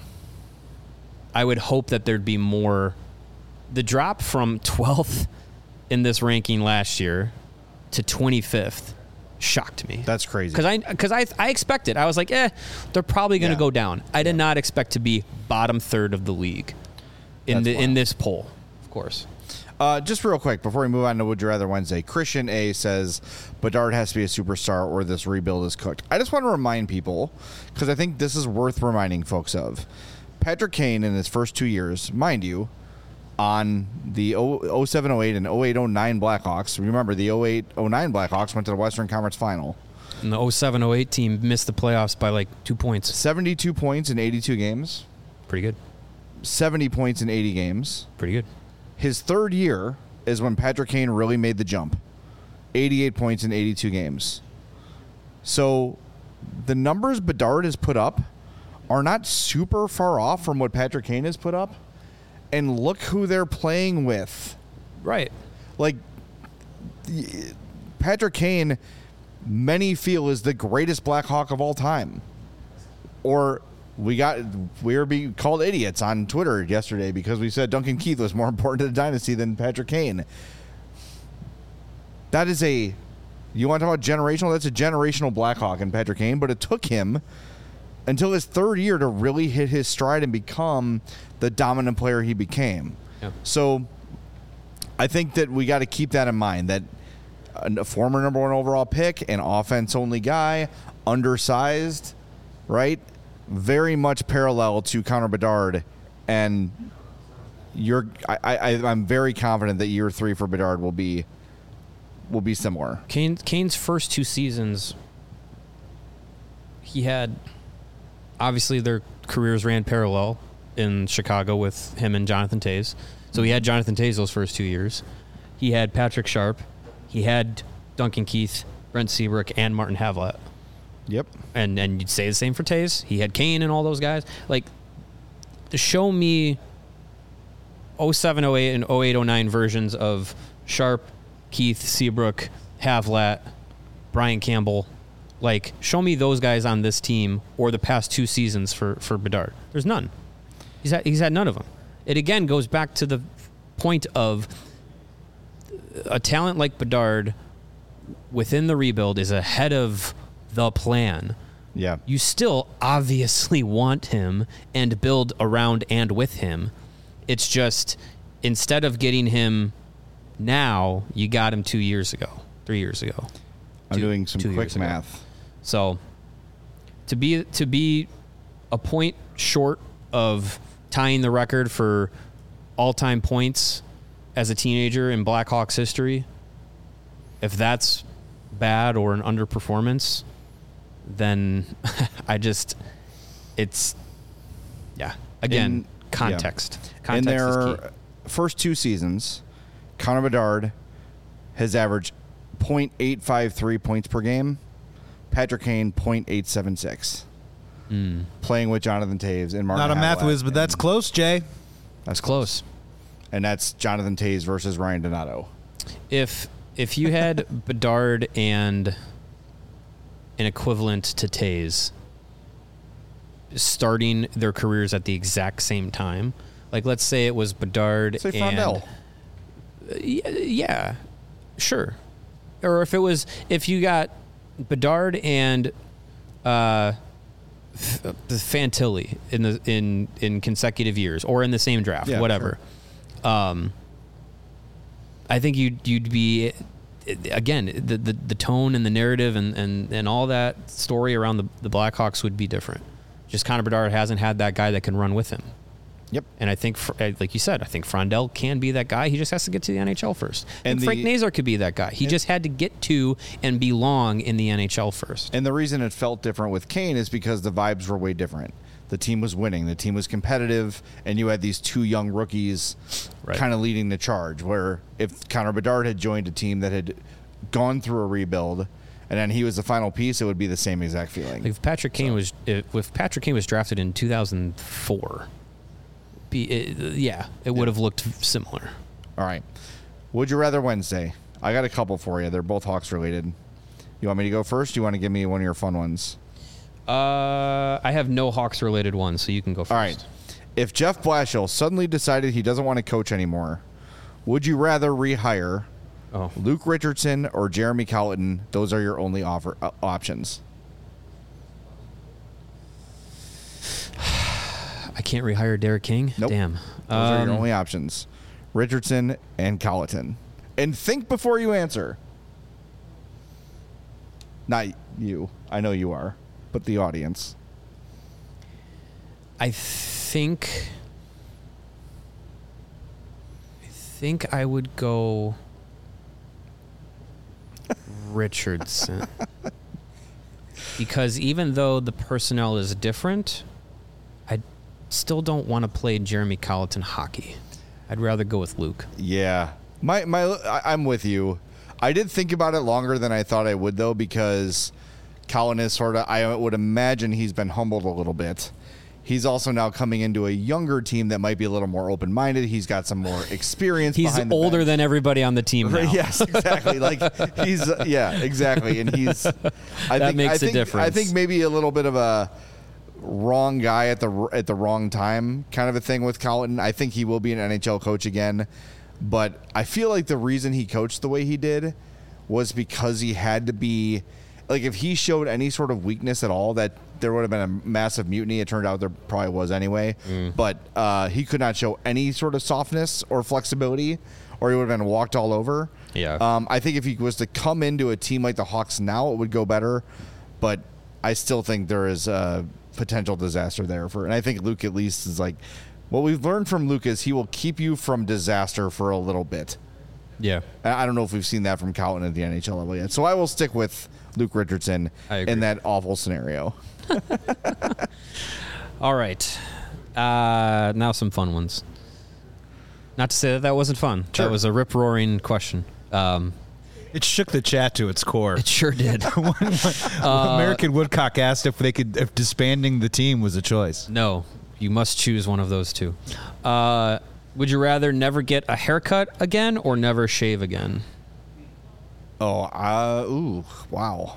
I would hope that there'd be more. The drop from 12th in this ranking last year to 25th shocked me. That's crazy. Because I expected. I was like, they're probably going to go down. I did not expect to be bottom third of the league in this poll, of course. Just real quick, before we move on to Would You Rather Wednesday, Christian A. says, Bedard has to be a superstar or this rebuild is cooked. I just want to remind people, because I think this is worth reminding folks of. Patrick Kane in his first 2 years, mind you, on the 07-08 and 08-09 Blackhawks. Remember, the 08-09 Blackhawks went to the Western Conference Final. And the 07-08 team missed the playoffs by like 2 points. 72 points in 82 games. Pretty good. 70 points in 80 games. Pretty good. His third year, is when Patrick Kane really made the jump. 88 points in 82 games. So the numbers Bedard has put up are not super far off from what Patrick Kane has put up. And look who they're playing with. Right. Like, Patrick Kane, many feel is the greatest Blackhawk of all time. Or we were being called idiots on Twitter yesterday because we said Duncan Keith was more important to the dynasty than Patrick Kane. That is you want to talk about generational? That's a generational Blackhawk in Patrick Kane, but it took him until his third year to really hit his stride and become the dominant player he became. Yeah. So I think that we got to keep that in mind, that a former number 1 overall pick, an offense-only guy, undersized, right? Very much parallel to Connor Bedard, and I'm very confident that year 3 for Bedard will be similar. Kane's first 2 seasons, he had, obviously their careers ran parallel in Chicago with him and Jonathan Toews. So he had Jonathan Toews those first 2 years. He had Patrick Sharp. He had Duncan Keith, Brent Seabrook, and Martin Havlat. Yep. And you'd say the same for Toews. He had Kane and all those guys. Like, to show me 07, 08, and 08, 09 versions of Sharp, Keith, Seabrook, Havlat, Brian Campbell. Like, show me those guys on this team or the past 2 seasons for Bedard. There's none. He's had none of them. It again goes back to the point of a talent like Bedard within the rebuild is ahead of the plan. Yeah. You still obviously want him and build around and with him. It's just, instead of getting him now, you got him 2 years ago, 3 years ago. I'm doing some quick math. So to be a point short of tying the record for all-time points as a teenager in Blackhawks history, if that's bad or an underperformance, then again, context. Context in their is key. first 2 seasons, Connor Bedard has averaged 0.853 points per game. Patrick Kane, 0.876. Playing with Jonathan Toews and Martin Not a Havlat, math whiz, but that's close, Jay. That's close. And that's Jonathan Toews versus Ryan Donato. If you had Bedard and an equivalent to Toews starting their careers at the exact same time, like let's say it was Bedard Say Frondell. Yeah, sure. Or if you got Bedard and Fantilli in consecutive years or in the same draft, whatever. Sure. I think you'd be, again, the tone and the narrative and all that story around the Blackhawks would be different. Just Connor Bedard hasn't had that guy that can run with him. Yep. And I think, like you said, I think Frondell can be that guy. He just has to get to the NHL first. And Frank Nazar could be that guy. He just had to get to and belong in the NHL first. And the reason it felt different with Kane is because the vibes were way different. The team was winning. The team was competitive. And you had these 2 young rookies kind of leading the charge, where if Connor Bedard had joined a team that had gone through a rebuild and then he was the final piece, it would be the same exact feeling. Like if Patrick Kane was drafted in 2004, it would have looked similar. All right. Would you rather Wednesday? I got a couple for you. They're both Hawks related. You want me to go first? You want to give me one of your fun ones? I have no Hawks related ones, so you can go first. All right. If Jeff Blashill suddenly decided he doesn't want to coach anymore, would you rather rehire Luke Richardson or Jeremy Colliton? Those are your only options. I can't rehire Derek King? Nope. Damn. Those are your only options. Richardson and Colliton. And think before you answer. Not you. I know you are. But the audience. I think I would go Richardson. Because even though the personnel is different, I still don't want to play Jeremy Colliton hockey. I'd rather go with Luke. Yeah. I'm with you. I did think about it longer than I thought I would, though, because Colin is sort of, I would imagine he's been humbled a little bit. He's also now coming into a younger team that might be a little more open-minded. He's got some more experience. He's older than everybody on the team now. Yes, exactly. Exactly. And he's, that makes a difference. I think maybe a little bit of a wrong guy at the wrong time kind of a thing with Colin. I think he will be an NHL coach again. But I feel like the reason he coached the way he did was because he had to be, like, if he showed any sort of weakness at all, that there would have been a massive mutiny. It turned out there probably was anyway. But he could not show any sort of softness or flexibility, or he would have been walked all over. Yeah. I think if he was to come into a team like the Hawks now, it would go better. But I still think there is a potential disaster there. And I think Luke at least is like, what we've learned from Luke is he will keep you from disaster for a little bit. Yeah. I don't know if we've seen that from Colin at the NHL level yet. So I will stick with Luke Richardson in that awful scenario. All right. Now some fun ones. Not to say that wasn't fun. Sure. That was a rip-roaring question. It shook the chat to its core. It sure did. American Woodcock asked if disbanding the team was a choice. No. You must choose one of those two. Would you rather never get a haircut again or never shave again? Wow.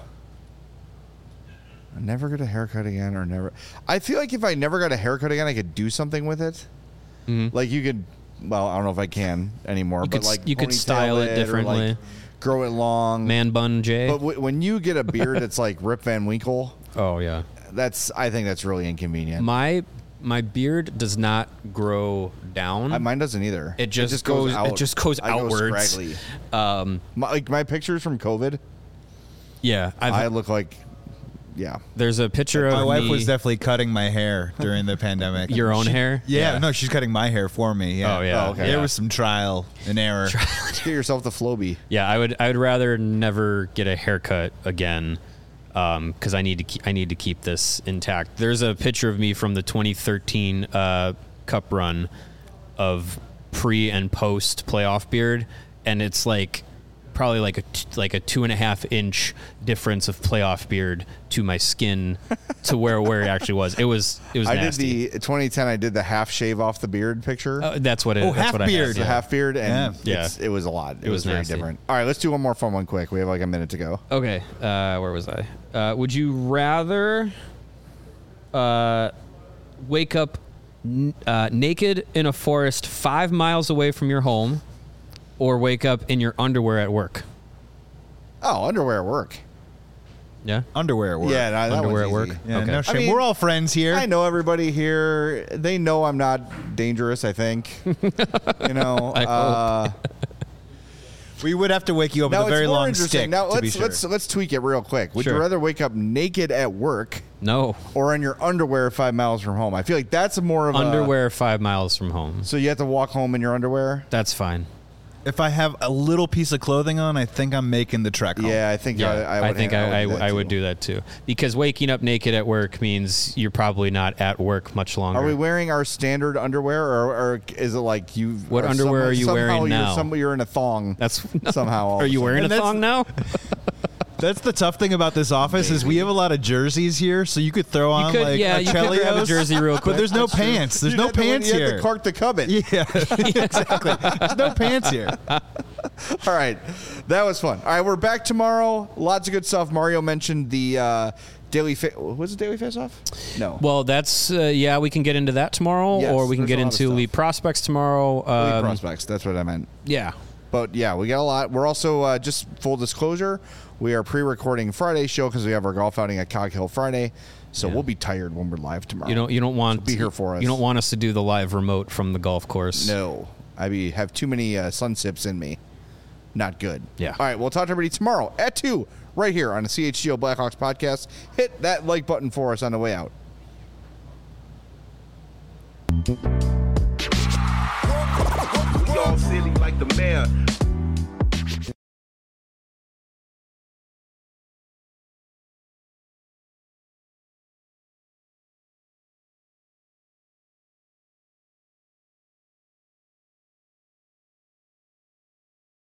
Never get a haircut again or never. I feel like if I never got a haircut again, I could do something with it. Mm-hmm. Like you could, well, I don't know if I can anymore, but like you could style it differently. Like grow it long. Man bun Jay. But when you get a beard that's like Rip Van Winkle. Oh, yeah. I think that's really inconvenient. My beard does not grow down. Mine doesn't either. It just goes out. It just goes outwards. My pictures from COVID. Yeah, I look like. Yeah. There's a picture of my wife me. was definitely cutting my hair during the pandemic. Your own hair? Yeah, no, she's cutting my hair for me. Yeah. Oh yeah. Okay. There was some trial and error. Get yourself the Flowbee. Yeah, I would rather never get a haircut again. Because I need to keep this intact. There's a picture of me from the 2013 Cup run of pre and post playoff beard, and it's like probably like a 2.5 inch difference of playoff beard to my skin to where it actually was. It was I nasty. did the 2010. I did the half shave off the beard picture. That's what it. That's half what beard. I had, The half beard, and Yeah. it was a lot. It was very nasty. different. All right, let's do one more fun one quick. We have like a minute to go. Okay, where was I? Would you rather wake up naked in a forest 5 miles away from your home, or wake up in your underwear at work? Oh, underwear at work. Yeah, Underwear at work. Yeah, that underwear one's at easy. work. Yeah, Okay. no shame. I mean, we're all friends here. I know everybody here. They know I'm not dangerous. I think. You know. We would have to wake you up with Now a very it's more long interesting. stick. Now to be sure. let's tweak it real quick. Would Sure. you rather wake up naked at work No, or in your underwear 5 miles from home? I feel like that's more of underwear 5 miles from home. So you have to walk home in your underwear. That's fine. If I have a little piece of clothing on, I think I'm making the trek home. Yeah, I think Yeah, I would do do that too. Because waking up naked at work means you're probably not at work much longer. Are we wearing our standard underwear, or is it like you? What underwear are you wearing now? You're in a thong. That's somehow. all Are of a you sudden. wearing a And that's- thong now? That's the tough thing about this office is we have a lot of jerseys here, so you could throw on could- like yeah, a you could grab a Chelios, jersey real quick. But there's no That's true. pants. There's You no had to- pants you here. had to Clark the Cubbit. Yeah, exactly. There's no pants here. All right, that was fun. All right, we're back tomorrow. Lots of good stuff. Mario mentioned the daily. Was it daily face off? No. Well, that's we can get into that tomorrow, Yes, or we can there's get a lot of into stuff. elite prospects tomorrow. Elite prospects. That's what I meant. Yeah, But yeah, we got a lot. We're also just full disclosure. We are pre-recording Friday's show because we have our golf outing at Cog Hill Friday, so we'll be tired when we're live tomorrow. you don't want So be here for us. You don't want us to do the live remote from the golf course. No, have too many sun sips in me. Not good. Yeah. All right, we'll talk to everybody tomorrow at 2 right here on the CHGO Blackhawks podcast. Hit that like button for us on the way out. We all silly like the mayor.